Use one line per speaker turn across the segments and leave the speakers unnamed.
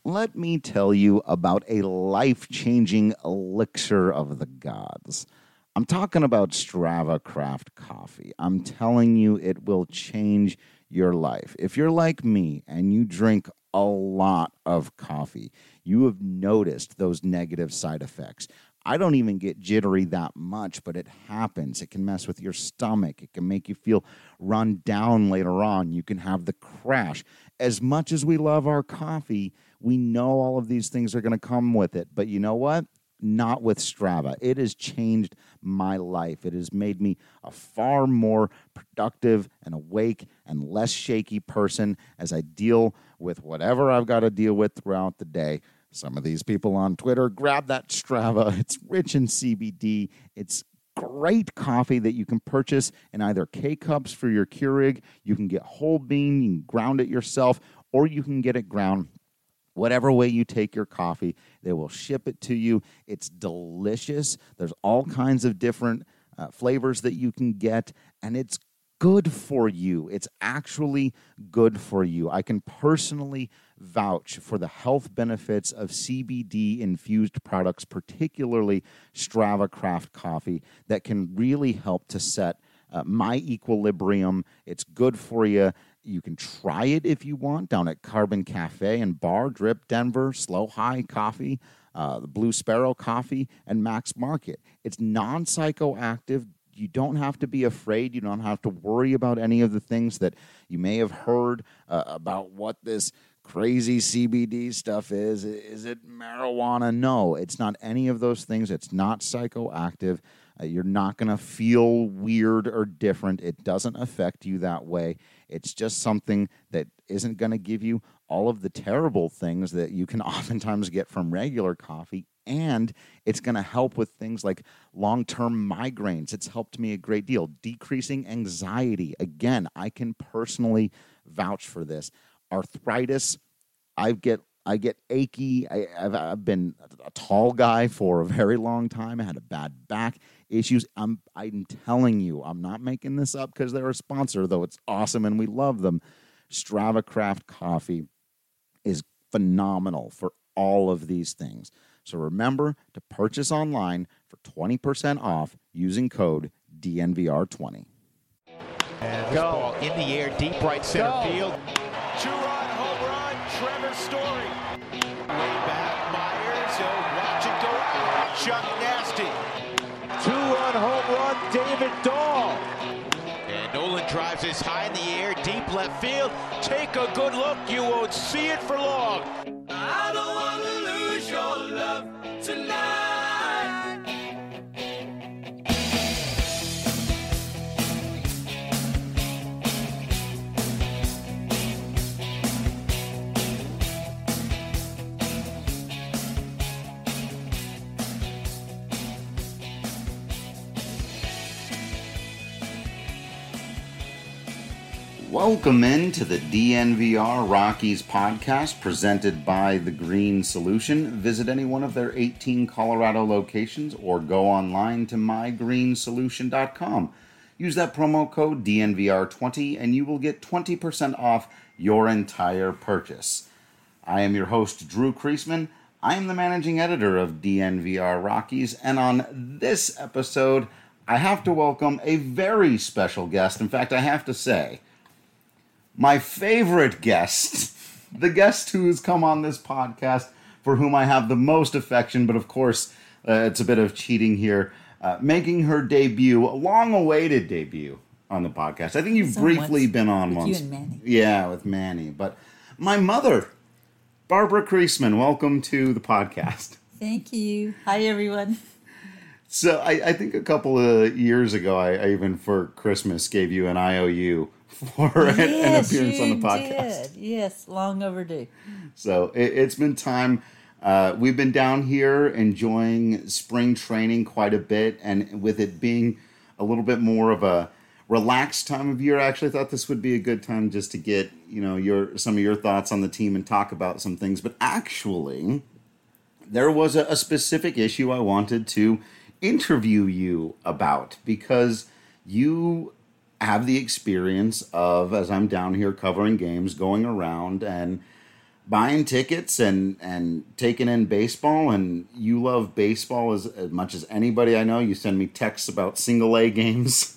let me tell you about a life-changing elixir of the gods. I'm talking about Strava Craft Coffee. I'm telling you, it will change your life. If you're like me and you drink a lot of coffee, you have noticed those negative side effects. I don't even get jittery that much, but it happens. It can mess with your stomach. It can make you feel run down later on. You can have the crash. As much as we love our coffee, we know all of these things are going to come with it. But you know what? Not with Strava. It has changed my life. It has made me a far more productive and awake and less shaky person as I deal with whatever I've got to deal with throughout the day. Some of these people on Twitter, grab that Strava. It's rich in CBD. It's great coffee that you can purchase in either K-Cups for your Keurig. You can get whole bean, you can ground it yourself, or you can get it ground. Whatever way you take your coffee, they will ship it to you. It's delicious. There's all kinds of different flavors that you can get, and it's good for you. It's actually good for you. I can personally vouch for the health benefits of CBD-infused products, particularly Strava Craft Coffee, that can really help to set my equilibrium. It's good for you. You can try it if you want down at Carbon Cafe and Bar, Drip Denver, Slow High Coffee, the Blue Sparrow Coffee, and Max Market. It's non-psychoactive. You don't have to be afraid. You don't have to worry about any of the things that you may have heard about what this crazy CBD stuff is. Is it marijuana? No, it's not any of those things. It's not psychoactive. You're not going to feel weird or different. It doesn't affect you that way. It's just something that isn't going to give you all of the terrible things that you can oftentimes get from regular coffee. And it's going to help with things like long-term migraines. It's helped me a great deal. Decreasing anxiety. Again, I can personally vouch for this. Arthritis, I get achy. I've been a tall guy for a very long time. I had a bad back issues. I'm telling you, I'm not making this up because they're a sponsor, though it's awesome and we love them. Strava Craft Coffee is phenomenal for all of these things. So remember to purchase online for 20% off using code DNVR20.
And go. Ball in the air, deep right center field.
Two-run home run, Trevor Story. Way back, Myers, watch it go out. Chuck Nasty.
Two-run home run, David Dahl.
And Nolan drives this high in the air, deep left field. Take a good look, you won't see it for long. I don't want to lose your love tonight.
Welcome into the DNVR Rockies podcast presented by The Green Solution. Visit any one of their 18 Colorado locations or go online to mygreensolution.com. Use that promo code DNVR20 and you will get 20% off your entire purchase. I am your host, Drew Kreisman. I am the managing editor of DNVR Rockies, and on this episode, I have to welcome a very special guest. In fact, I have to say, my favorite guest, the guest who has come on this podcast, for whom I have the most affection, but of course, it's a bit of cheating here, making her debut, a long-awaited debut on the podcast. I think you've briefly been on once.
You and Manny.
Yeah, with Manny. But my mother, Barbara Kreisman, welcome to the podcast.
Thank you. Hi, everyone.
So I think a couple of years ago, I even for Christmas gave you an IOU for an appearance on the podcast.
Did. Yes, long overdue.
So it's been time. We've been down here enjoying spring training quite a bit, and with it being a little bit more of a relaxed time of year, I actually thought this would be a good time just to get some of your thoughts on the team and talk about some things. But actually, there was a specific issue I wanted to interview you about because you have the experience of, as I'm down here covering games, going around and buying tickets and taking in baseball, and you love baseball as much as anybody I know. You send me texts about single A games.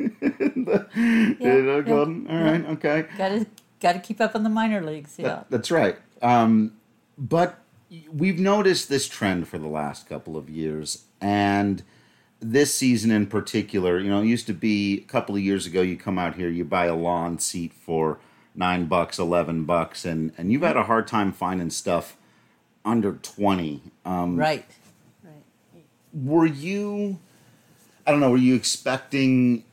Golden. All right, okay.
Got to keep up on the minor leagues. Yeah,
That's right. But we've noticed this trend for the last couple of years, and this season in particular. You know, it used to be a couple of years ago. You come out here, you buy a lawn seat for $9, $11, and you've had a hard time finding stuff under 20.
right.
Were you? I don't know. Were you expecting?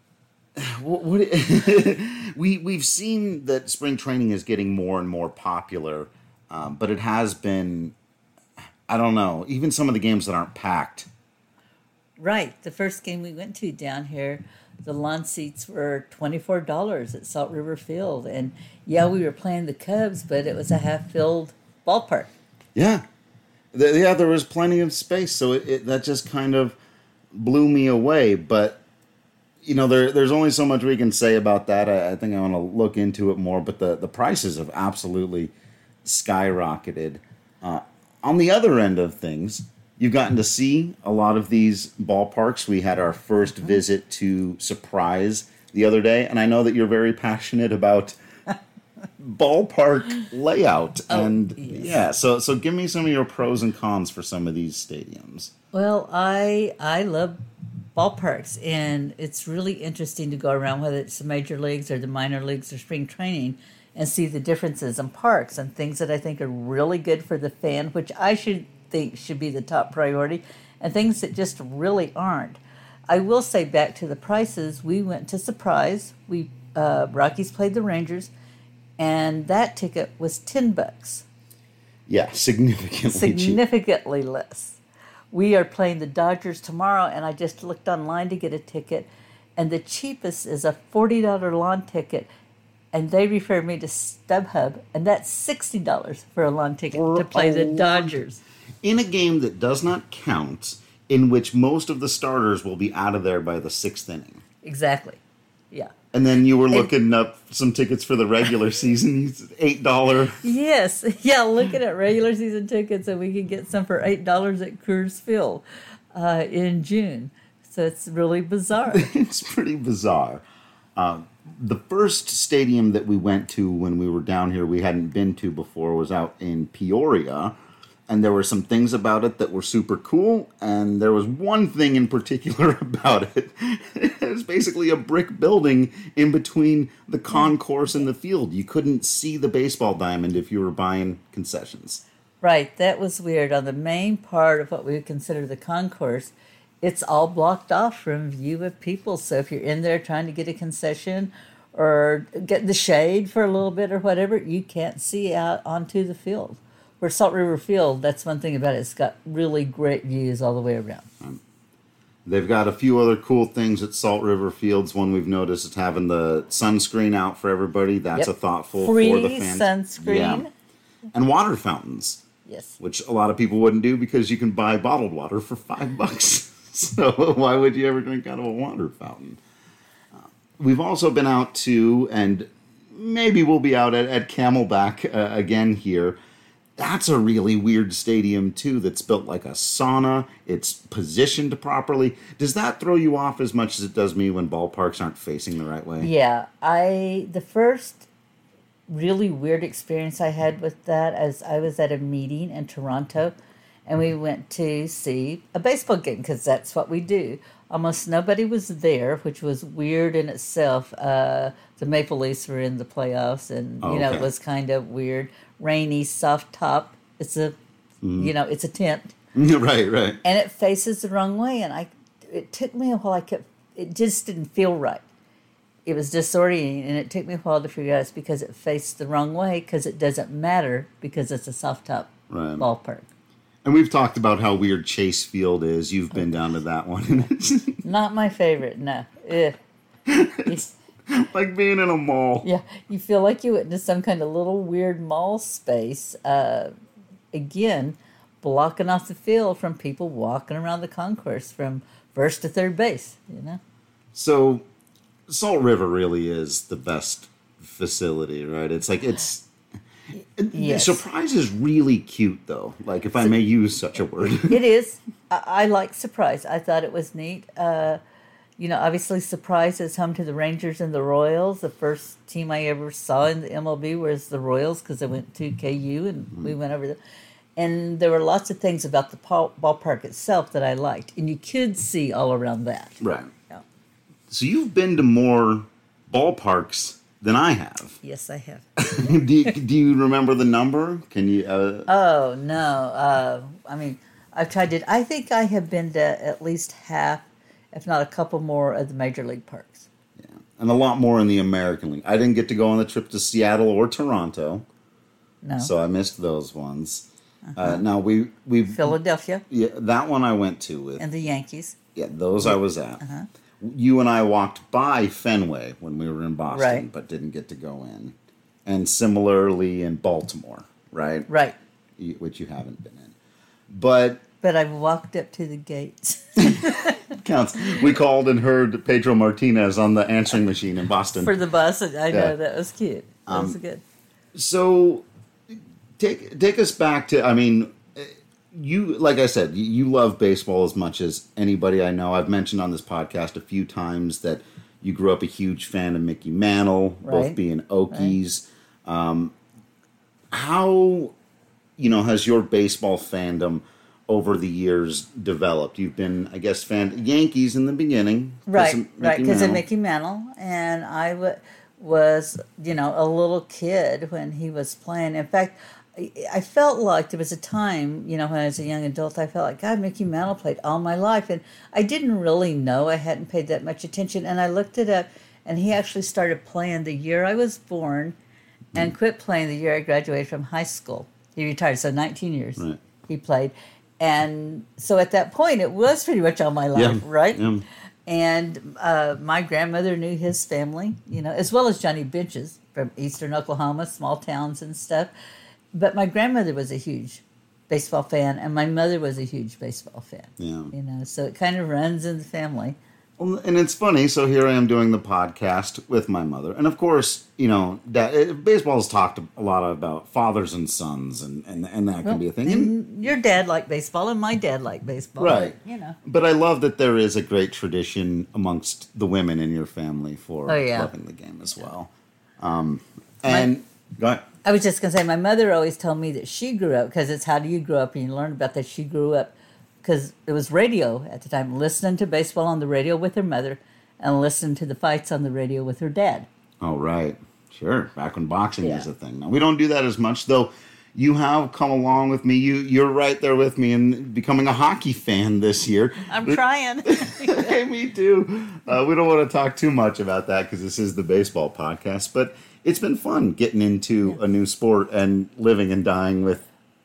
What we've seen that spring training is getting more and more popular, but it has been. I don't know. Even some of the games that aren't packed.
Right. The first game we went to down here, the lawn seats were $24 at Salt River Field, and yeah, we were playing the Cubs, but it was a half-filled ballpark.
Yeah, there was plenty of space, so that just kind of blew me away. But you know, there's only so much we can say about that. I think I want to look into it more, but the prices have absolutely skyrocketed. On the other end of things, you've gotten to see a lot of these ballparks. We had our first visit to Surprise the other day, and I know that you're very passionate about ballpark layout. And
yes.
yeah, so give me some of your pros and cons for some of these stadiums.
Well, I love ballparks, and it's really interesting to go around, whether it's the major leagues or the minor leagues or spring training, and see the differences in parks and things that I think are really good for the fan, which I think should be the top priority, and things that just really aren't. I will say, back to the prices, we went to Surprise. Rockies played the Rangers, and that ticket was $10.
Yeah, significantly cheap.
Significantly less. We are playing the Dodgers tomorrow, and I just looked online to get a ticket, and the cheapest is a $40 lawn ticket, and they referred me to StubHub, and that's $60 for a lawn ticket to play the Dodgers.
In a game that does not count, in which most of the starters will be out of there by the sixth inning.
Exactly. Yeah.
And then you were looking up some tickets for the regular season, $8.
Yes. Yeah, looking at regular season tickets, and we can get some for $8 at Coors Field in June. So it's really bizarre.
It's pretty bizarre. The first stadium that we went to when we were down here we hadn't been to before was out in Peoria. And there were some things about it that were super cool, and there was one thing in particular about it. It was basically a brick building in between the concourse and the field. You couldn't see the baseball diamond if you were buying concessions.
Right, that was weird. On the main part of what we would consider the concourse, it's all blocked off from view of people. So if you're in there trying to get a concession or get the shade for a little bit or whatever, you can't see out onto the field. Where Salt River Field, that's one thing about it. It's got really great views all the way around.
They've got a few other cool things at Salt River Fields. One we've noticed is having the sunscreen out for everybody. That's a thoughtful
Free
for the fans.
Sunscreen.
Yeah. And water fountains.
Yes.
Which a lot of people wouldn't do because you can buy bottled water for $5. So why would you ever drink out of a water fountain? We've also been out to, and maybe we'll be out at Camelback again here. That's a really weird stadium, too, that's built like a sauna. It's positioned properly. Does that throw you off as much as it does me when ballparks aren't facing the right way?
Yeah. The first really weird experience I had with that as I was at a meeting in Toronto, and we went to see a baseball game, because that's what we do. Almost nobody was there, which was weird in itself. The Maple Leafs were in the playoffs, and, it was kind of weird. Rainy, soft top. It's it's a tent.
Right.
And it faces the wrong way, and it took me a while. It just didn't feel right. It was disorienting, and it took me a while to figure out it's because it faced the wrong way, because it doesn't matter, because it's a soft top ballpark.
And we've talked about how weird Chase Field is. You've been down to that one.
Not my favorite, no.
Like being in a mall.
Yeah, you feel like you went into some kind of little weird mall space. Again, blocking off the field from people walking around the concourse from first to third base,
So, Salt River really is the best facility, right? It's like
Yes.
Surprise is really cute, though. Like, if I may use such a word.
It is. I like Surprise. I thought it was neat. Obviously Surprise is home to the Rangers and the Royals. The first team I ever saw in the MLB was the Royals because I went to KU and we went over there. And there were lots of things about the ballpark itself that I liked. And you could see all around that.
Right.
Yeah.
So you've been to more ballparks than I have.
Yes, I have.
do you remember the number? Can you?
Oh, no. I've tried it. I think I have been to at least half, if not a couple more, of the major league parks.
Yeah, and a lot more in the American League. I didn't get to go on the trip to Seattle or Toronto.
No.
So I missed those ones. Now we
Philadelphia.
Yeah, that one I went to with.
And the Yankees.
Yeah, those I was at. You and I walked by Fenway when we were in Boston,
Right.
but didn't get to go in. And similarly in Baltimore, right?
Right.
Which you haven't been in. But
I walked up to the gates.
counts. We called and heard Pedro Martinez on the answering machine in Boston.
For the bus. I know,
Yeah.
that was cute. That was good.
So take us back to, you, like I said, you love baseball as much as anybody I know. I've mentioned on this podcast a few times that you grew up a huge fan of Mickey Mantle, both
Right.
being Okies. How, has your baseball fandom over the years developed? You've been, I guess, Yankees in the beginning.
Right, because of
Mantle.
Mickey Mantle. And I was, a little kid when he was playing. In fact, I felt like there was a time, when I was a young adult, I felt like, God, Mickey Mantle played all my life. And I didn't really know. I hadn't paid that much attention. And I looked it up, and he actually started playing the year I was born and quit playing the year I graduated from high school. He retired, so 19 years he played. And so at that point, it was pretty much all my life, right?
Yeah.
And my grandmother knew his family, as well as Johnny Bench's from eastern Oklahoma, small towns and stuff. But my grandmother was a huge baseball fan, and my mother was a huge baseball fan.
Yeah.
So it kind of runs in the family.
Well, and it's funny. So here I am doing the podcast with my mother, and of course, baseball has talked a lot about fathers and sons, and that can be a thing.
And your dad liked baseball, and my dad liked baseball,
Right.
But,
But I love that there is a great tradition amongst the women in your family for loving the game as well. Go ahead.
I was just going to say, my mother always told me that she grew up, because it's how do you grow up, and you learn about that. She grew up because it was radio at the time, listening to baseball on the radio with her mother and listening to the fights on the radio with her dad.
Oh, right. Sure. Back when boxing was a thing. Now, we don't do that as much, though. You have come along with me. You're right there with me in becoming a hockey fan this year.
I'm trying.
Hey, me too. We don't want to talk too much about that because this is the baseball podcast, but it's been fun getting into a new sport and living and dying with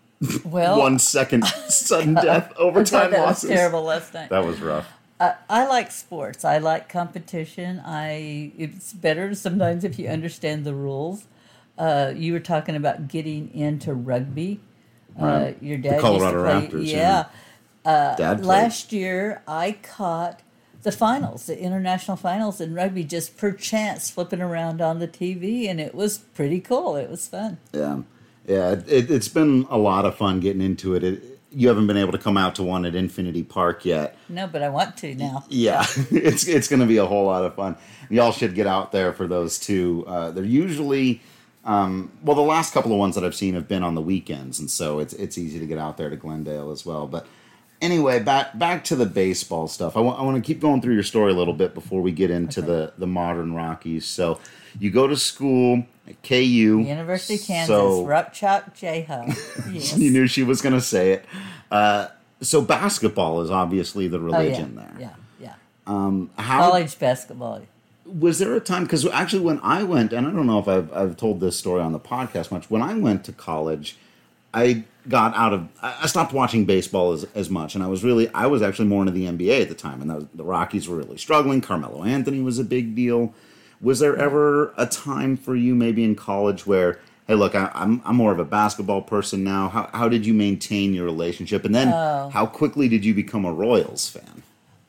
1 second sudden death, overtime
that
losses.
was terrible last night.
That was rough.
I like sports. I like competition. It's better sometimes if you understand the rules. You were talking about getting into rugby.
Right.
Your dad
the Colorado
used to play,
Raptors.
Yeah.
Dad played.
Last year, I caught the finals, the international finals in rugby, just per chance flipping around on the TV, and it was pretty cool. It was fun.
Yeah. It's been a lot of fun getting into it. You haven't been able to come out to one at Infinity Park yet.
No, but I want to now.
Yeah, it's going to be a whole lot of fun. Y'all should get out there for those two. They're usually, the last couple of ones that I've seen have been on the weekends, and so it's easy to get out there to Glendale as well. But anyway, back to the baseball stuff. I want to keep going through your story a little bit before we get into the modern Rockies. So you go to school at KU.
University of Kansas, Rupchak Jayhawk. Yes.
You knew she was going to say it. So basketball is obviously the religion there.
Yeah.
How
College basketball.
was there a time? Because actually, when I went, and I don't know if I've told this story on the podcast much. When I went to college, I stopped watching baseball as much, and I was actually more into the NBA at the time, and the Rockies were really struggling. Carmelo Anthony was a big deal. Was there ever a time for you, maybe in college, where, hey, look, I'm more of a basketball person now? How did you maintain your relationship? And then how quickly did you become a Royals fan?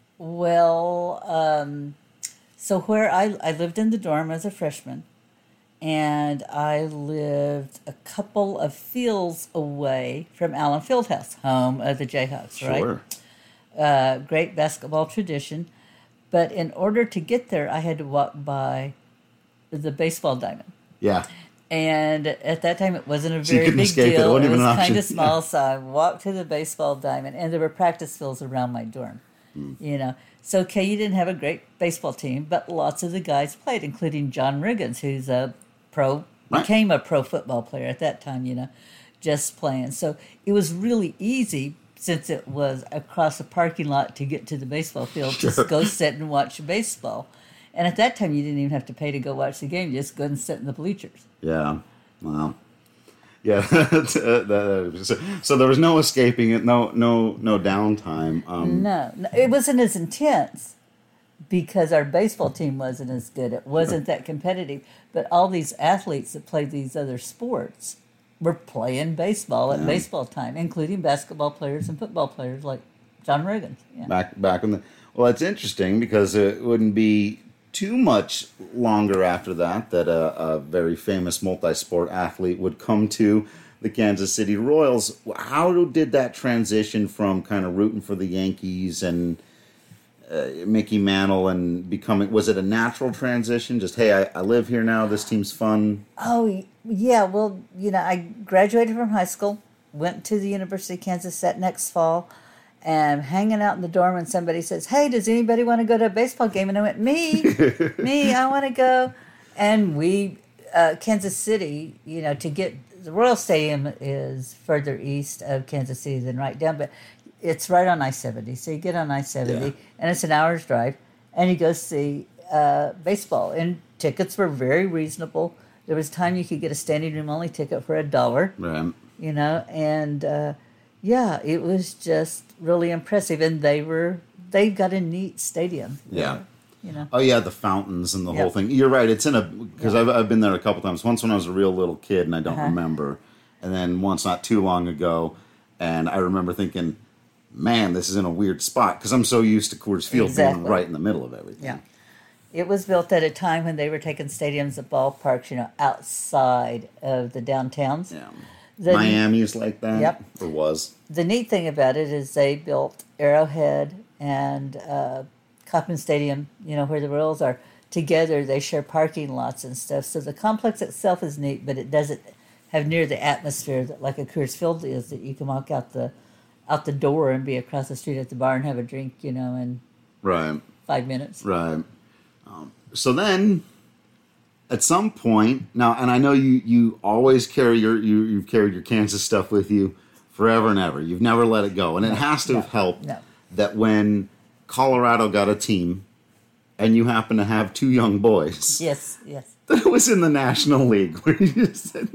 Well, so where I lived in the dorm as a freshman, and I lived a couple of fields away from Allen Fieldhouse, home of the Jayhawks,
Sure.
right? Great basketball tradition. But in order to get there, I had to walk by the baseball diamond.
Yeah.
And at that time, it wasn't a
So you
very
couldn't
big
escape it. It
deal.
wasn't
It
even
was
an
kind
option.
of small, so I walked to the baseball diamond, and there were practice fields around my dorm. You know, so KU didn't have a great baseball team, but lots of the guys played, including John Riggins, who's became a pro football player at that time. You know, just playing. So it was really easy since it was across a parking lot to get to the baseball field. Just go sit and watch baseball. And at that time, you didn't even have to pay to go watch the game. You just go and sit in the bleachers.
Yeah. Wow. Yeah. So there was no escaping it. No downtime.
No, it wasn't as intense because our baseball team wasn't as good. It wasn't that competitive. But all these athletes that played these other sports were playing baseball at baseball time, including basketball players and football players like John Riggins. Yeah.
Back in the. Well, it's interesting because it wouldn't be too much longer after that a very famous multi-sport athlete would come to the Kansas City Royals. How did that transition from kind of rooting for the Yankees and Mickey Mantle and becoming, was it a natural transition? Just, hey, I live here now, this team's fun?
Oh, yeah. Well, you know, I graduated from high school, went to the University of Kansas that next fall, and hanging out in the dorm, and somebody says, hey, does anybody want to go to a baseball game? And I went, me, I want to go. And we, Kansas City, you know, to get, the Royal Stadium is further east of Kansas City than right down, but it's right on I-70. So you get on I-70, and it's an hour's drive, and you go see baseball. And tickets were very reasonable. There was time you could get a standing room only ticket for $1,
Right.
you know, and yeah, it was just really impressive. And they've got a neat stadium.
Yeah.
You know.
Oh yeah, the fountains and the whole thing. You're right. It's in a, because I've been there a couple times. Once when I was a real little kid and I don't remember, and then once not too long ago, and I remember thinking, man, this is in a weird spot because I'm so used to Coors Field being right in the middle of everything.
Yeah. It was built at a time when they were taking stadiums at ballparks, you know, outside of the downtowns.
Yeah.
Miami's
like that.
Yep.
Or was.
The neat thing about it is they built Arrowhead and Kauffman Stadium, you know, where the Royals are, together. They share parking lots and stuff. So the complex itself is neat, but it doesn't have near the atmosphere that like a Coors Field is, that you can walk out the door and be across the street at the bar and have a drink, you know, in 5 minutes.
Right. So then, at some point, now, and I know you always carry you've carried your Kansas stuff with you forever and ever. You've never let it go. And it has to have helped that when Colorado got a team and you happen to have two young boys.
Yes.
That it was in the National League. Where you just said,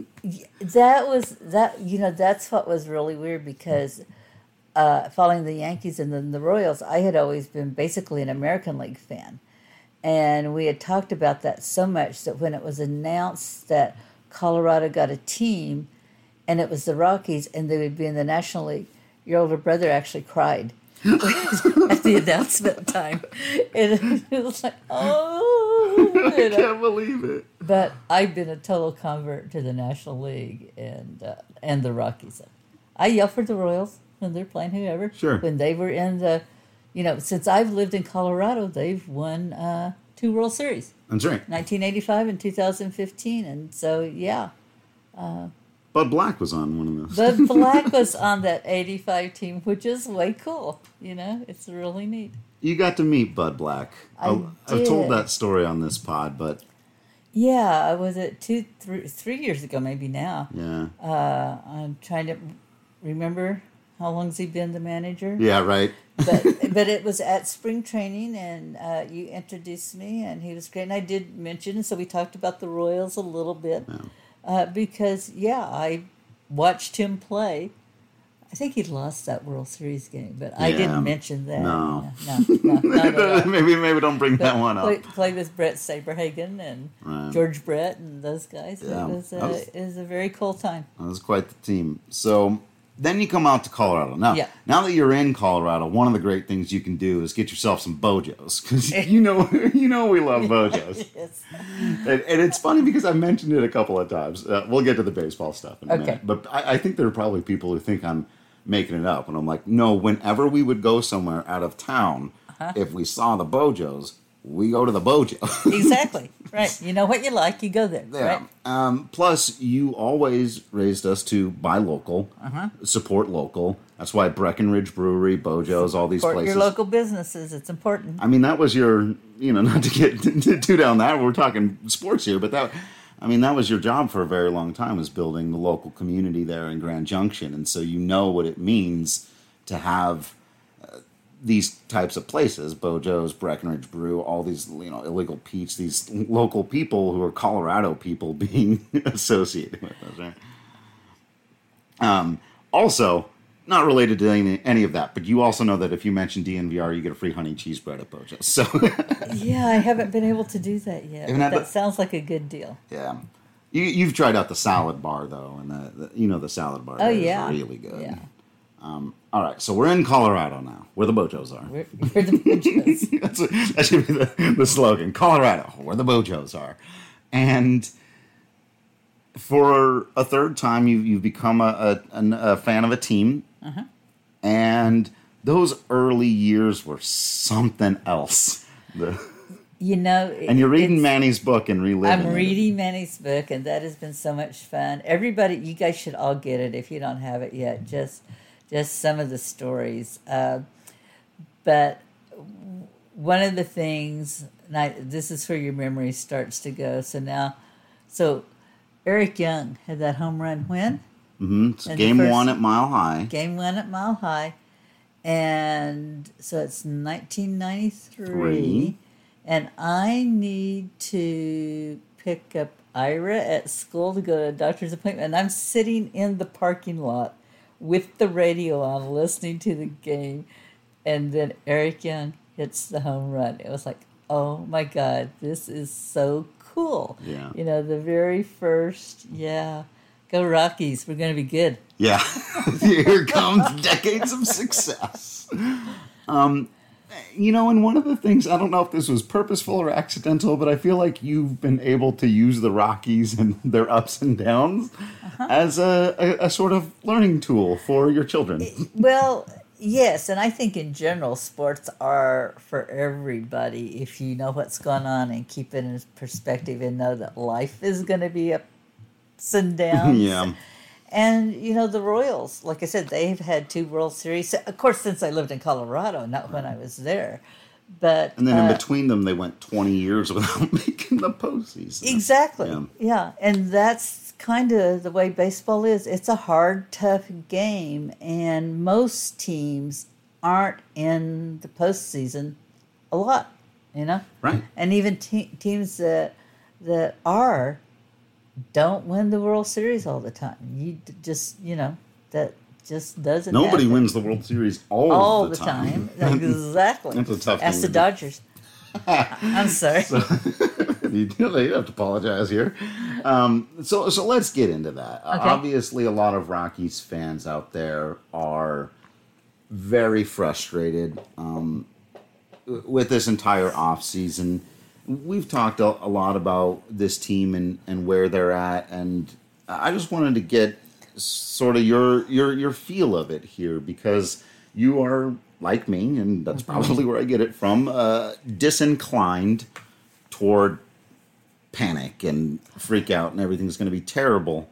that's what was really weird because following the Yankees and then the Royals, I had always been basically an American League fan. And we had talked about that so much that when it was announced that Colorado got a team and it was the Rockies and they would be in the National League, your older brother actually cried at the announcement time. And it was like, oh,
I can't believe it.
But I've been a total convert to the National League and the Rockies. I yell for the Royals when they're playing whoever.
Sure.
When they were in the, you know, since I've lived in Colorado, they've won 2 World Series.
That's right.
1985 and 2015. And so, yeah.
Bud Black was on one of those.
Bud Black was on that 85 team, which is way cool. You know, it's really neat.
You got to meet Bud Black. I've told
did.
that story on this pod, but...
Yeah, I was at 3 years ago, maybe now.
Yeah.
I'm trying to remember how long's he been the manager.
Yeah, right.
but it was at spring training, and you introduced me, and he was great. And I did mention, and so we talked about the Royals a little bit because, I watched him play. I think he lost that World Series game, but I didn't mention that.
No.
No.
maybe don't bring that one up.
Played with Brett Saberhagen and George Brett and those guys.
Yeah.
It was a very cool time.
That was quite the team. So then you come out to Colorado. Now that you're in Colorado, one of the great things you can do is get yourself some Bojos, because you know we love Bojos.
Yes.
And it's funny because I mentioned it a couple of times. We'll get to the baseball stuff in a minute. But I think there are probably people who think I'm making it up. And I'm like, no, whenever we would go somewhere out of town, if we saw the Bojos, we go to the Bojo.
Exactly. Right. You know what you like, you go there.
Yeah.
Right?
Plus, you always raised us to buy local, support local. That's why Breckenridge Brewery, Bojo's, all these
Support
places.
your local businesses. It's important.
I mean, that was your, not to get too down that, we're talking sports here, but that was your job for a very long time, was building the local community there in Grand Junction. And so you know what it means to have these types of places, Bojo's, Breckenridge Brew, all these, Illegal Pete's, these local people who are Colorado people being associated with us, right? Also, not related to any of that, but you also know that if you mention DNVR, you get a free honey cheese bread at Bojo's. So
yeah, I haven't been able to do that yet. That sounds like a good deal.
Yeah. You've tried out the salad bar, though, and the salad bar is really good.
Yeah.
All right, so we're in Colorado now, where the Bojos are.
Where the Bojos.
That should be the slogan. Colorado, where the Bojos are. And for a third time, you've become a fan of a team. And those early years were something else. And you're reading Manny's book and reliving
I'm reading Manny's book, and that has been so much fun. Everybody, you guys should all get it if you don't have it yet. Just some of the stories. But one of the things, this is where your memory starts to go. So Eric Young had that home run win.
Mm-hmm. It's game one at Mile High.
Game one at Mile High. And so it's 1993. And I need to pick up Ira at school to go to a doctor's appointment. And I'm sitting in the parking lot with the radio on, listening to the game. And then Eric Young hits the home run. It was like, oh my God, this is so cool.
Yeah.
The very first, go Rockies. We're going to be good.
Yeah. Here comes decades of success. And one of the things, I don't know if this was purposeful or accidental, but I feel like you've been able to use the Rockies and their ups and downs as a sort of learning tool for your children.
Well, yes, and I think in general, sports are for everybody if you know what's going on and keep it in perspective and know that life is going to be ups and downs.
Yeah.
And, the Royals, like I said, they've had 2 World Series. Of course, since I lived in Colorado, not when I was there. But
and then in between them, they went 20 years without making the postseason.
Exactly. Yeah. And that's kind of the way baseball is. It's a hard, tough game. And most teams aren't in the postseason a lot,
Right.
And even teams that are don't win the World Series all the time. You just, that just doesn't
Nobody
happen.
wins the World Series all the time.
Exactly.
That's a tough thing
Ask the
to do.
Dodgers. I'm sorry.
You have to apologize here. So let's get into that.
Okay.
Obviously, a lot of Rockies fans out there are very frustrated with this entire offseason. We've talked a lot about this team and where they're at, and I just wanted to get sort of your feel of it here, because you are, like me, and that's probably where I get it from, disinclined toward panic and freak out and everything's going to be terrible.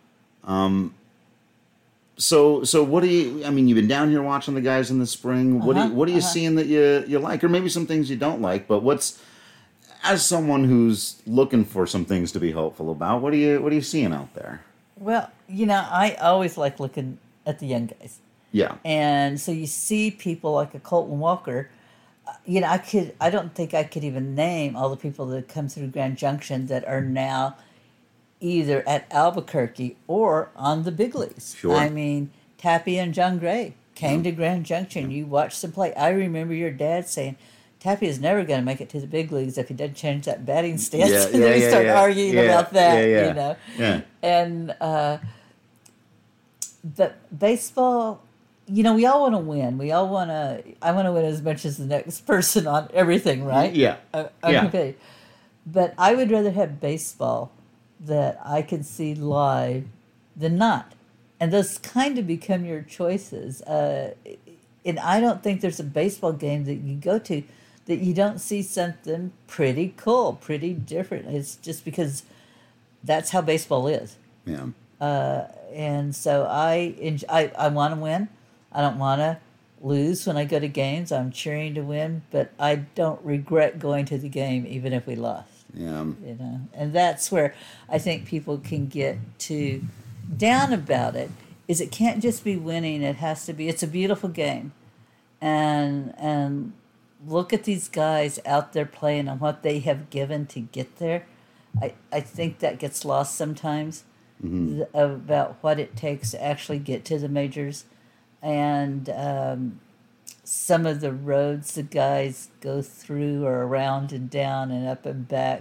So what do you? I mean, you've been down here watching the guys in the spring. What are you seeing that you like, or maybe some things you don't like? But as someone who's looking for some things to be hopeful about, what are you seeing out there?
Well, I always like looking at the young guys.
Yeah.
And so you see people like a Colton Walker. I don't think I could even name all the people that come through Grand Junction that are now either at Albuquerque or on the big leagues.
Sure.
I mean, Tappy and John Gray came to Grand Junction. You watched them play. I remember your dad saying, Tappy is never going to make it to the big leagues if he doesn't change that batting stance.
Yeah,
and then we start arguing about that,
Yeah.
And but baseball, we all want to win. I want to win as much as the next person on everything, right?
Yeah.
Okay. But I would rather have baseball that I can see live than not. And those kind of become your choices. And I don't think there's a baseball game that you go to that you don't see something pretty cool, pretty different. It's just because that's how baseball is.
Yeah.
And so I want to win. I don't want to lose when I go to games. I'm cheering to win, but I don't regret going to the game even if we lost.
Yeah.
And that's where I think people can get too down about it. Is it can't just be winning. It has to be. It's a beautiful game, and look at these guys out there playing and what they have given to get there. I think that gets lost sometimes about what it takes to actually get to the majors, and some of the roads the guys go through are around and down and up and back.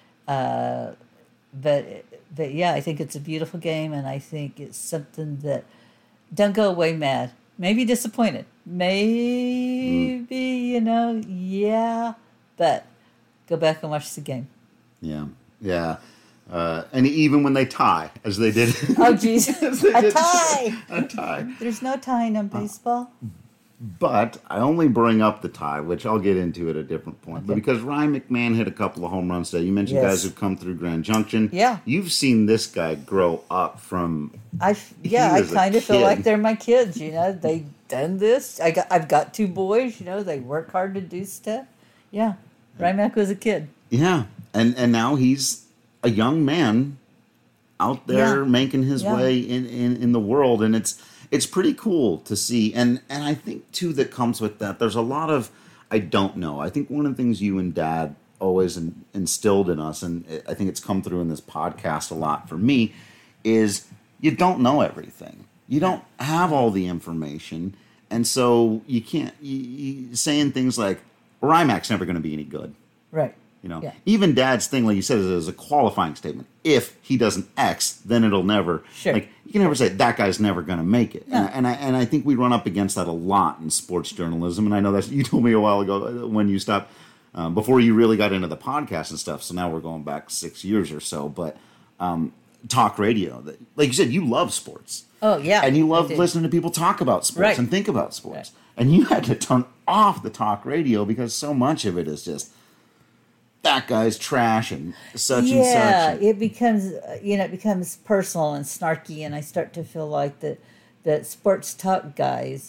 But yeah, I think it's a beautiful game, and I think it's something that don't go away mad. Maybe disappointed. Maybe, yeah. But go back and watch the game.
Yeah. Yeah. And even when they tie, as they did.
Oh, geez. A tie.
A tie.
There's no tying on baseball.
But I only bring up the tie, which I'll get into at a different point.
Okay.
But because Ryan McMahon hit a couple of home runs today, you mentioned guys who've come through Grand Junction.
Yeah.
You've seen this guy grow up from.
I kind of feel like they're my kids. They done this. I've got two boys. They work hard to do stuff. Yeah, Ryan Mac was a kid.
Yeah, and now he's a young man out there making his way in the world, and it's pretty cool to see. And I think, too, that comes with that, there's a lot of, I don't know. I think one of the things you and Dad always instilled in us, and I think it's come through in this podcast a lot for me, is you don't know everything. You don't have all the information. And so you can't, saying things like, RIMAC's never going to be any good.
Right.
Even Dad's thing, like you said, is a qualifying statement. If he doesn't X, then it'll never.
Sure.
Like you can never say that guy's never going to make it.
No.
And I think we run up against that a lot in sports journalism. And I know that you told me a while ago when you stopped before you really got into the podcast and stuff. So now we're going back 6 years or so. But talk radio, like you said, you love sports.
Oh yeah.
And you love listening to people talk about sports and think about sports. Right. And you had to turn off the talk radio because so much of it is just. That guy's trash and such and such.
Yeah, it becomes personal and snarky, and I start to feel like that sports talk guys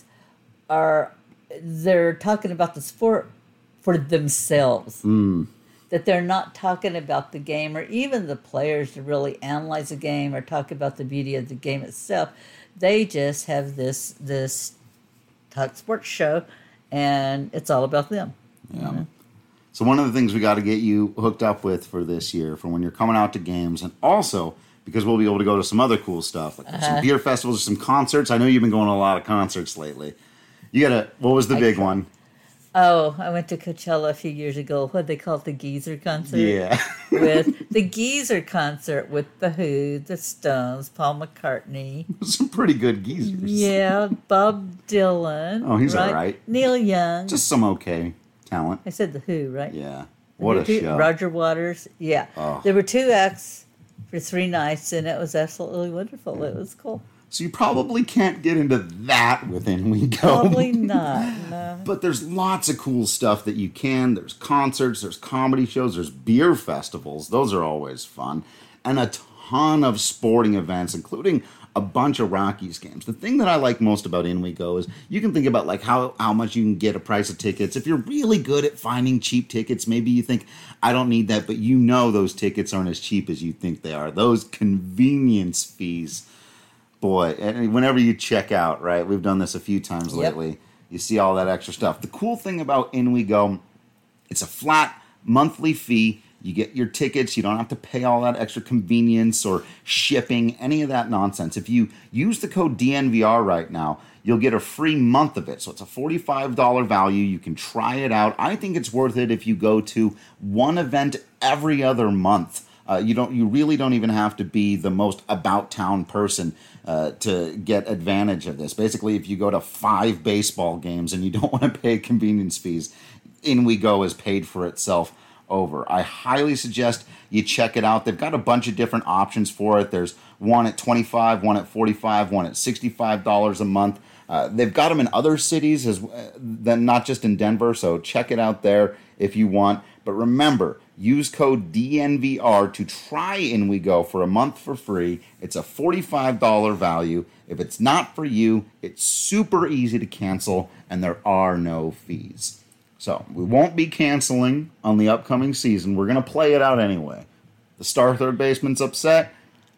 they're talking about the sport for themselves. That they're not talking about the game or even the players to really analyze the game or talk about the beauty of the game itself. They just have this talk sports show, and it's all about them.
Yeah. So one of the things we got to get you hooked up with for this year, for when you're coming out to games, and also because we'll be able to go to some other cool stuff, like some beer festivals or some concerts. I know you've been going to a lot of concerts lately. What was the big one?
Oh, I went to Coachella a few years ago. What they call it, the Geezer concert?
Yeah.
With the Geezer concert with The Who, The Stones, Paul McCartney.
Some pretty good geezers.
Yeah, Bob Dylan.
Oh, he's all right.
Neil Young.
Just some okay talent.
I said The Who, right?
Yeah. What a show.
Roger Waters. Yeah. Oh. There were 2 acts for 3 nights, and it was absolutely wonderful. It was cool.
So you probably can't get into that with In We Go.
Probably not, no.
But there's lots of cool stuff that you can. There's concerts, there's comedy shows, there's beer festivals. Those are always fun. And a ton of sporting events, including a bunch of Rockies games. The thing that I like most about In We Go is you can think about like how much you can get a price of tickets. If you're really good at finding cheap tickets, maybe you think, I don't need that, but you know those tickets aren't as cheap as you think they are. Those convenience fees. Boy, and whenever you check out, right, we've done this a few times lately, you see all that extra stuff. The cool thing about In We Go, it's a flat monthly fee. You get your tickets. You don't have to pay all that extra convenience or shipping, any of that nonsense. If you use the code DNVR right now, you'll get a free month of it. So it's a $45 value. You can try it out. I think it's worth it if you go to one event every other month You really don't even have to be the most about town person to get advantage of this. Basically, if you go to 5 baseball games and you don't want to pay convenience fees, In We Go is paid for itself over. I highly suggest you check it out. They've got a bunch of different options for it. There's one at $25, one at $45, one at $65 a month. They've got them in other cities than not just in Denver, so check it out there if you want. But remember, use code DNVR to try In We Go for a month for free. It's a $45 value. If it's not for you, it's super easy to cancel, and there are no fees. So we won't be canceling on the upcoming season. We're going to play it out anyway. The star third baseman's upset.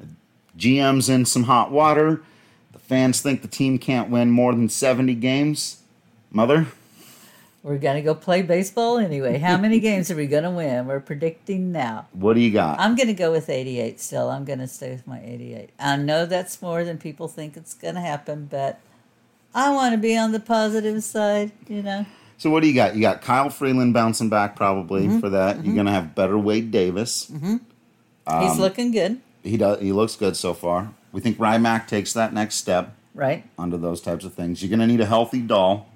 GM's in some hot water. The fans think the team can't win more than 70 games. Mother?
We're going to go play baseball anyway. How many games are we going to win? We're predicting now.
What do you got?
I'm going to go with 88 still. I'm going to stay with my 88. I know that's more than people think it's going to happen, but I want to be on the positive side, you know.
So what do you got? You got Kyle Freeland bouncing back probably for that. You're going to have better Wade Davis.
He's looking good.
He looks good so far. We think Rymack takes that next step.
Right.
Onto those types of things. You're going to need a healthy Dahl.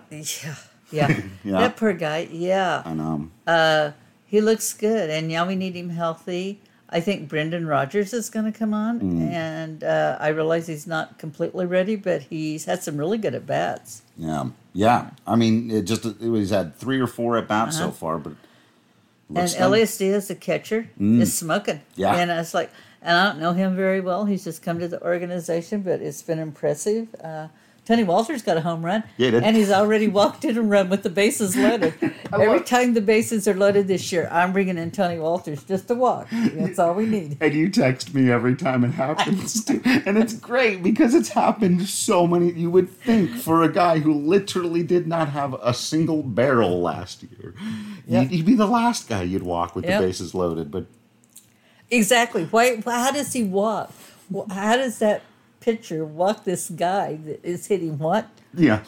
Yeah.
Yeah.
That poor guy. Yeah.
And
he looks good, and now we need him healthy. I think Brendan Rodgers is going to come on, and I realize he's not completely ready, but he's had some really good at-bats.
Yeah. I mean, he's had 3 or 4 at-bats so far, but...
And Elias Diaz, the catcher, is smoking.
Yeah.
And I was like, and I don't know him very well. He's just come to the organization, but it's been impressive. Tony Walters got a home run.
Yeah, he did.
And he's already walked in and run with the bases loaded. Every time the bases are loaded this year, I'm bringing in Tony Walters just to walk. That's all we need.
And you text me every time it happens, too. And it's great because it's happened so many. You would think for a guy who literally did not have a single barrel last year, he'd be the last guy you'd walk with the bases loaded. But
exactly. How does he walk? How does that pitcher walk this guy that is hitting what?
Yeah.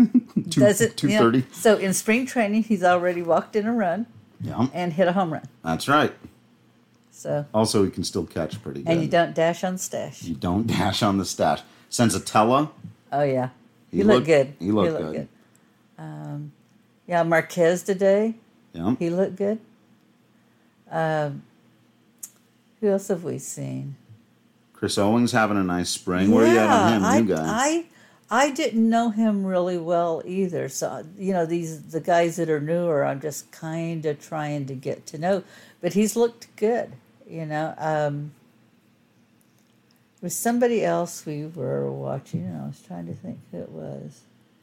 230.
So in spring training, he's already walked in a run and hit a home run.
That's right.
So
also, he can still catch pretty good.
And you don't dash on stash.
You don't dash on the stash. Senzatella.
Oh, yeah. He looked good.
He looked good.
Marquez today.
Yeah.
He looked good. Who else have we seen?
Chris Owings having a nice spring. Where are you at on him, you guys?
I didn't know him really well either. So, the guys that are newer, I'm just kind of trying to get to know. But he's looked good, There was somebody else we were watching, and I was trying to think who it was.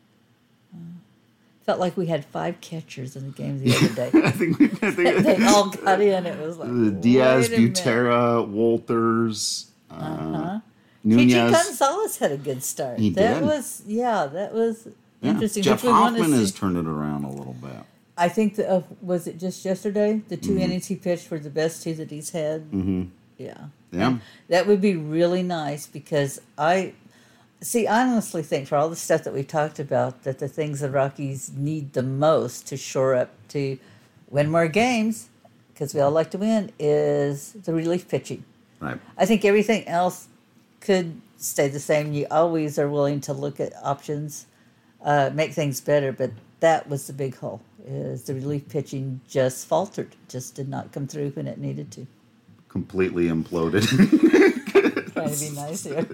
Felt like we had 5 catchers in the game the other day.
I think
they all got in. It was like
Diaz, Butera, Walters... Nunez.
Gigi Gonzalez had a good start. That was interesting.
Jeff Hoffman has turned it around a little bit.
I think was it just yesterday? The 2 innings he pitched were the best 2 that he's had. Mm-hmm. Yeah. And that would be really nice because I honestly think for all the stuff that we talked about, that the things the Rockies need the most to shore up to win more games, because we all like to win, is the relief pitching.
Right.
I think everything else could stay the same. You always are willing to look at options, make things better, but that was the big hole, is the relief pitching just faltered, just did not come through when it needed to.
Completely imploded.
Trying to be nice here.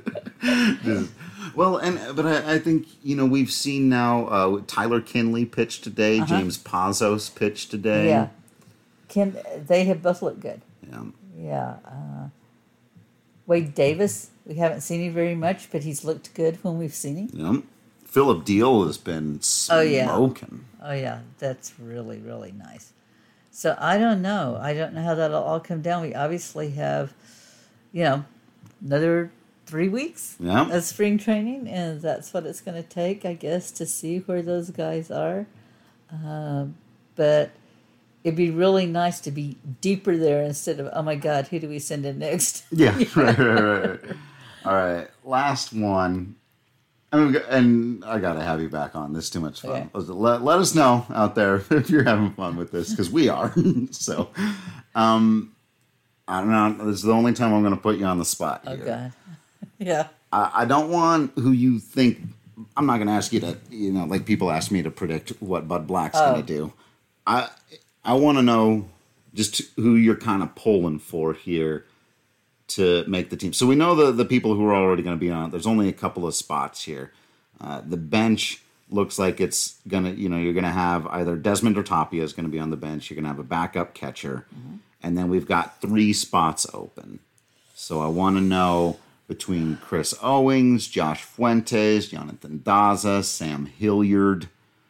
But I think, we've seen now Tyler Kinley pitch today, James Pazos pitched today.
Yeah. They have both looked good.
Yeah.
Yeah. Wade Davis, we haven't seen him very much, but he's looked good when we've seen him.
Yeah. Philip Deal has been smoking.
Oh, yeah. That's really, really nice. So I don't know. I don't know how that'll all come down. We obviously have, another 3 weeks of spring training, and that's what it's going to take, I guess, to see where those guys are. But it'd be really nice to be deeper there instead of, oh my God, who do we send in next?
Yeah, right. All right, last one. And I got to have you back on. This is too much fun. Okay. Let us know out there if you're having fun with this, because we are. So, I don't know. This is the only time I'm going to put you on the spot here.
Oh, God. Yeah.
I don't want who you think. I'm not going to ask you to, like people ask me to predict what Bud Black's going to do. I want to know just who you're kind of pulling for here to make the team. So we know the people who are already going to be on it. There's only a couple of spots here. The bench looks like it's going to, you're going to have either Desmond or Tapia is going to be on the bench. You're going to have a backup catcher. Mm-hmm. And then we've got 3 spots open. So I want to know between Chris Owings, Josh Fuentes, Jonathan Daza, Sam Hilliard.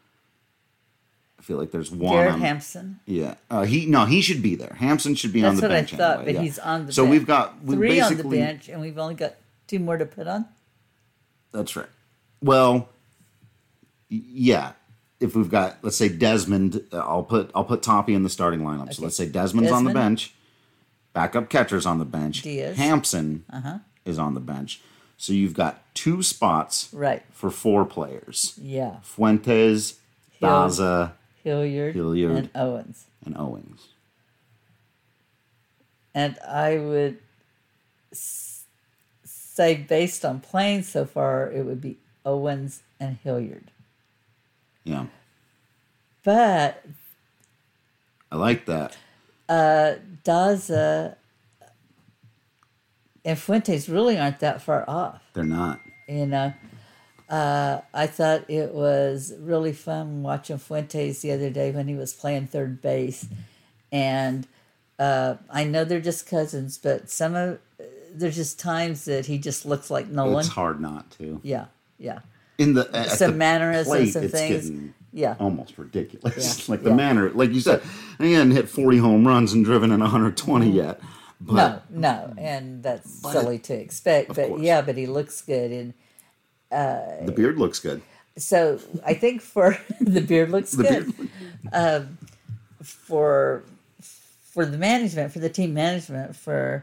I feel like there's one.
Garrett Hampson.
Yeah. He should be there. Hampson should be on the bench.
That's what I thought,
anyway.
but he's on the bench.
So we've got
3 on the bench, and we've only got 2 more to put on?
That's right. Well, yeah. If we've got, let's say Desmond, I'll put Toppy in the starting lineup. Okay. So let's say Desmond's on the bench, backup catcher's on the bench.
Diaz.
Hampson is on the bench. So you've got 2 spots for 4 players.
Yeah.
Fuentes, Daza,
Hilliard, and Owens. And I would say, based on playing so far, it would be Owens and Hilliard.
Yeah.
But
I like that.
Daza and Fuentes really aren't that far off.
They're not.
I thought it was really fun watching Fuentes the other day when he was playing third base. And I know they're just cousins, but there's just times that he just looks like Nolan.
It's hard not to.
Yeah.
In
some mannerisms and
it's
things.
Almost ridiculous. Yeah. Like the manner, like you said, he hadn't hit 40 home runs and driven in 120 yet. But,
no, and that's silly to expect. But course. But he looks good, and
the beard looks good.
So I think for the beard looks good. For the management, for the team management, for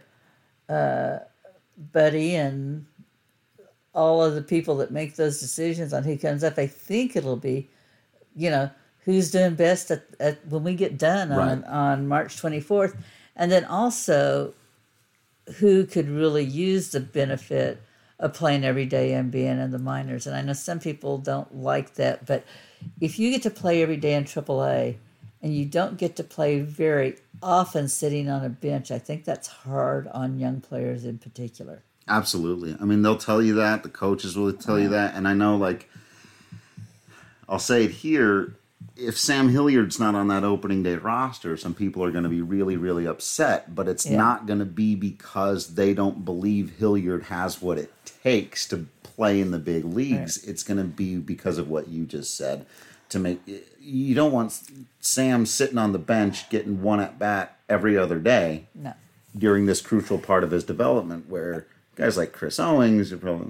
Buddy and all of the people that make those decisions on who comes up, I think it'll be, who's doing best at when we get done on March 24th. And then also who could really use the benefit of playing every day and being in the minors. And I know some people don't like that, but if you get to play every day in AAA and you don't get to play very often sitting on a bench, I think that's hard on young players in particular.
Absolutely. I mean, they'll tell you that. The coaches will tell you that. And I know, I'll say it here, if Sam Hilliard's not on that opening day roster, some people are going to be really, really upset. But it's not going to be because they don't believe Hilliard has what it takes to play in the big leagues. Right. It's going to be because of what you just said. You don't want Sam sitting on the bench getting one at bat every other day during this crucial part of his development where guys like Chris Owings are probably...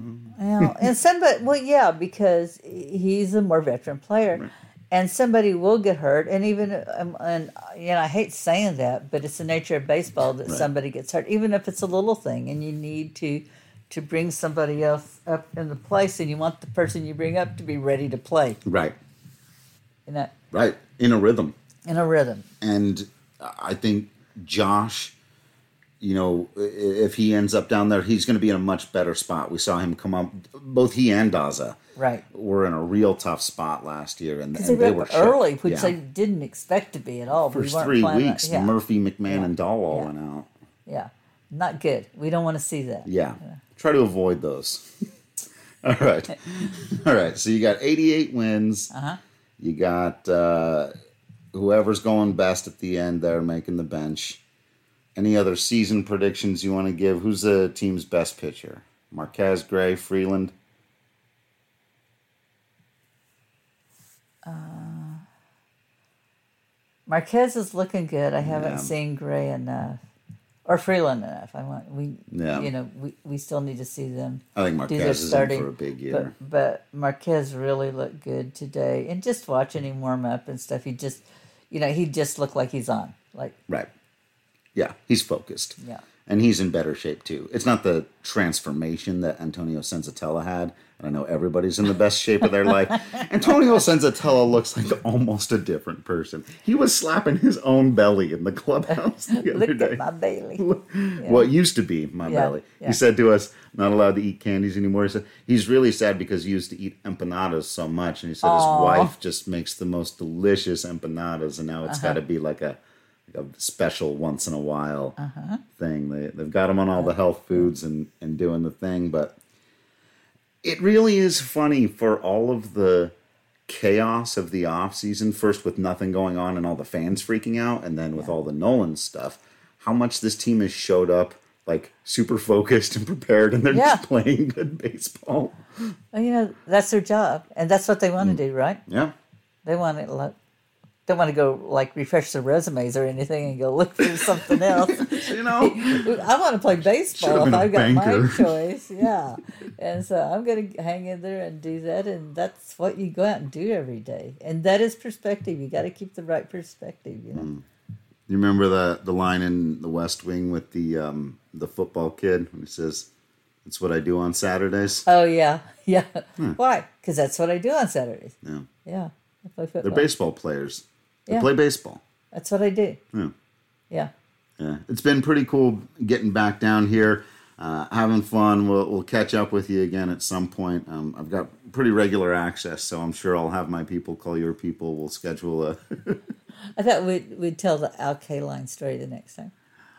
because he's a more veteran player. Right. And somebody will get hurt, and even I hate saying that, but it's the nature of baseball that somebody gets hurt, even if it's a little thing, and you need to bring somebody else up in the place, and you want the person you bring up to be ready to play.
Right. Right. In a rhythm. And I think Josh, if he ends up down there, he's going to be in a much better spot. We saw him come up. Both he and Daza were in a real tough spot last year, and they were
early, which they didn't expect to be at all.
First 3 weeks, Murphy, McMahon, and Dahl all went out.
Yeah, not good. We don't want to see that.
Yeah, try to avoid those. All right. So you got 88 wins. You got whoever's going best at the end there, making the bench. Any other season predictions you want to give? Who's the team's best pitcher? Marquez, Gray, Freeland?
Marquez is looking good. I haven't seen Gray enough. Or Freeland enough. We still need to see them.
I think Marquez is in for a big year.
But Marquez really looked good today. And just watching him warm up and stuff, he just looked like he's on.
Right. Yeah, he's focused.
Yeah.
And he's in better shape, too. It's not the transformation that Antonio Senzatella had. And I know everybody's in the best shape of their life. Antonio Senzatella looks like almost a different person. He was slapping his own belly in the clubhouse the other
Look
day.
at my belly.
What used to be my belly.
Yeah.
He said to us, not allowed to eat candies anymore. He said he's really sad because he used to eat empanadas so much. And he said his wife just makes the most delicious empanadas. And now it's got to be like a special once in a while thing. They've got him on all the health foods and doing the thing. But it really is funny for all of the chaos of the off season, first with nothing going on and all the fans freaking out, and then with all the Nolan stuff, how much this team has showed up like super focused and prepared, and they're just playing good baseball.
Well, that's their job, and that's what they want to do, right?
Yeah.
They want to don't want to go like refresh their resumes or anything and go look for something else. I want to play baseball if I've got my choice. Yeah. And so I'm going to hang in there and do that. And that's what you go out and do every day. And that is perspective. You got to keep the right perspective, You
remember the line in The West Wing with the football kid when he says, "It's what I do on Saturdays"?
Oh, yeah. Yeah. Why? Because that's what I do on Saturdays.
Yeah.
Yeah. I play football.
They're baseball players. They play baseball.
That's what I do.
Yeah.
Yeah.
Yeah. It's been pretty cool getting back down here, having fun. We'll catch up with you again at some point. I've got pretty regular access, so I'm sure I'll have my people call your people. We'll schedule a...
I thought we'd tell the Al Kaline story the next time.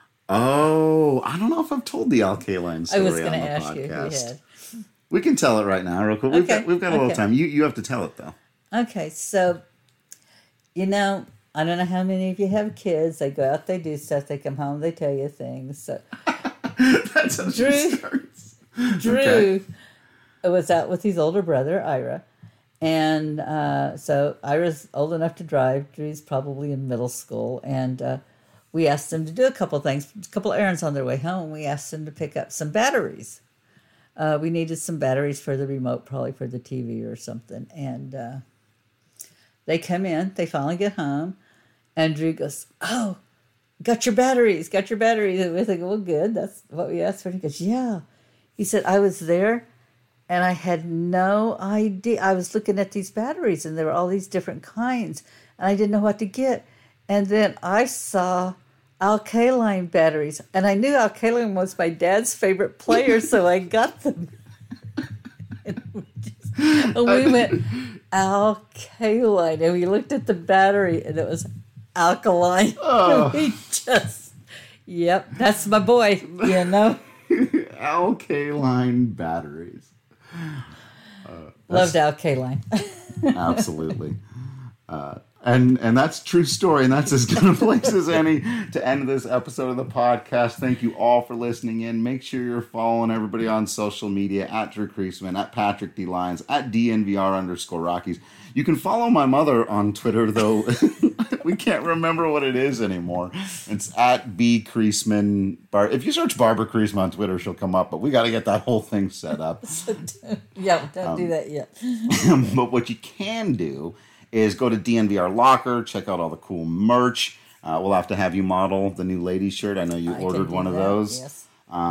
Oh, I don't know if I've told the Al Kaline story on the podcast.
I was going to ask you if you had.
We can tell it right now, real quick. We've got a little time. You have to tell it, though.
Okay, so... I don't know how many of you have kids. They go out, they do stuff. They come home, they tell you things. So
That's how she starts.
Drew was out with his older brother, Ira. And so Ira's old enough to drive. Drew's probably in middle school. And we asked them to do a couple things, a couple errands on their way home. We asked them to pick up some batteries. We needed some batteries for the remote, probably for the TV or something. And... they come in, they finally get home, and Drew goes, "Oh, got your batteries. And we think, well, good, that's what we asked for. He goes, "Yeah." He said, "I was there, and I had no idea. I was looking at these batteries, and there were all these different kinds, and I didn't know what to get. And then I saw Al Kaline batteries, and I knew Al Kaline was my dad's favorite player, so I got them." And we went, Al Kaline, and we looked at the battery, and it was alkaline.
Oh.
We just, that's my boy,
Al Kaline batteries.
Loved Al Kaline.
Absolutely. And that's a true story, and that's as good a place as any to end this episode of the podcast. Thank you all for listening in. Make sure you're following everybody on social media, at Drew Creasman, at Patrick D. Lyons, at DNVR_Rockies. You can follow my mother on Twitter, though we can't remember what it is anymore. It's at B. Creasman. If you search Barbara Creasman on Twitter, she'll come up, but we got to get that whole thing set up.
Don't do that yet.
But what you can do is go to DNVR Locker, check out all the cool merch. We'll have to have you model the new ladies shirt. I know you ordered one of those.
Yes.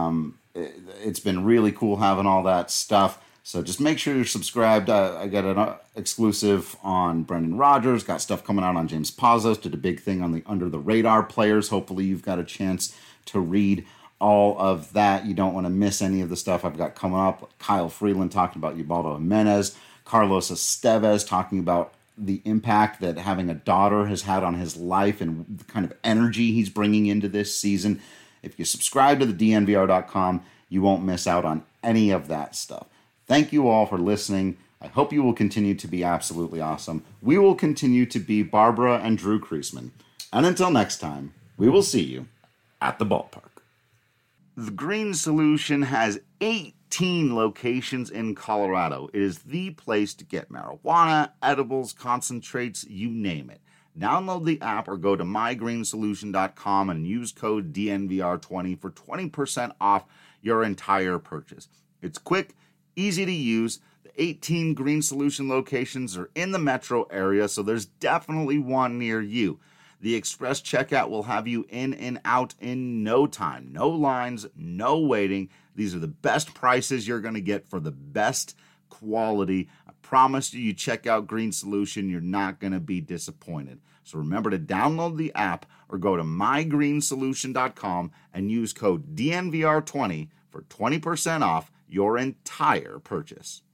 It's been really cool having all that stuff. So just make sure you're subscribed. I got an exclusive on Brendan Rodgers. Got stuff coming out on James Pazos. Did a big thing on the Under the Radar players. Hopefully you've got a chance to read all of that. You don't want to miss any of the stuff I've got coming up. Kyle Freeland talking about Ubaldo Jimenez. Carlos Estevez talking about the impact that having a daughter has had on his life and the kind of energy he's bringing into this season. If you subscribe to the DNVR.com, you won't miss out on any of that stuff. Thank you all for listening. I hope you will continue to be absolutely awesome. We will continue to be Barbara and Drew Creasman. And until next time, we will see you at the ballpark. The Green Solution has 18 locations in Colorado. It is the place to get marijuana, edibles, concentrates, you name it. Download the app or go to mygreensolution.com and use code DNVR20 for 20% off your entire purchase. It's quick, easy to use. The 18 Green Solution locations are in the metro area, so there's definitely one near you. The express checkout will have you in and out in no time. No lines, no waiting. These are the best prices you're going to get for the best quality. I promise you check out Green Solution. You're not going to be disappointed. So remember to download the app or go to mygreensolution.com and use code DNVR20 for 20% off your entire purchase.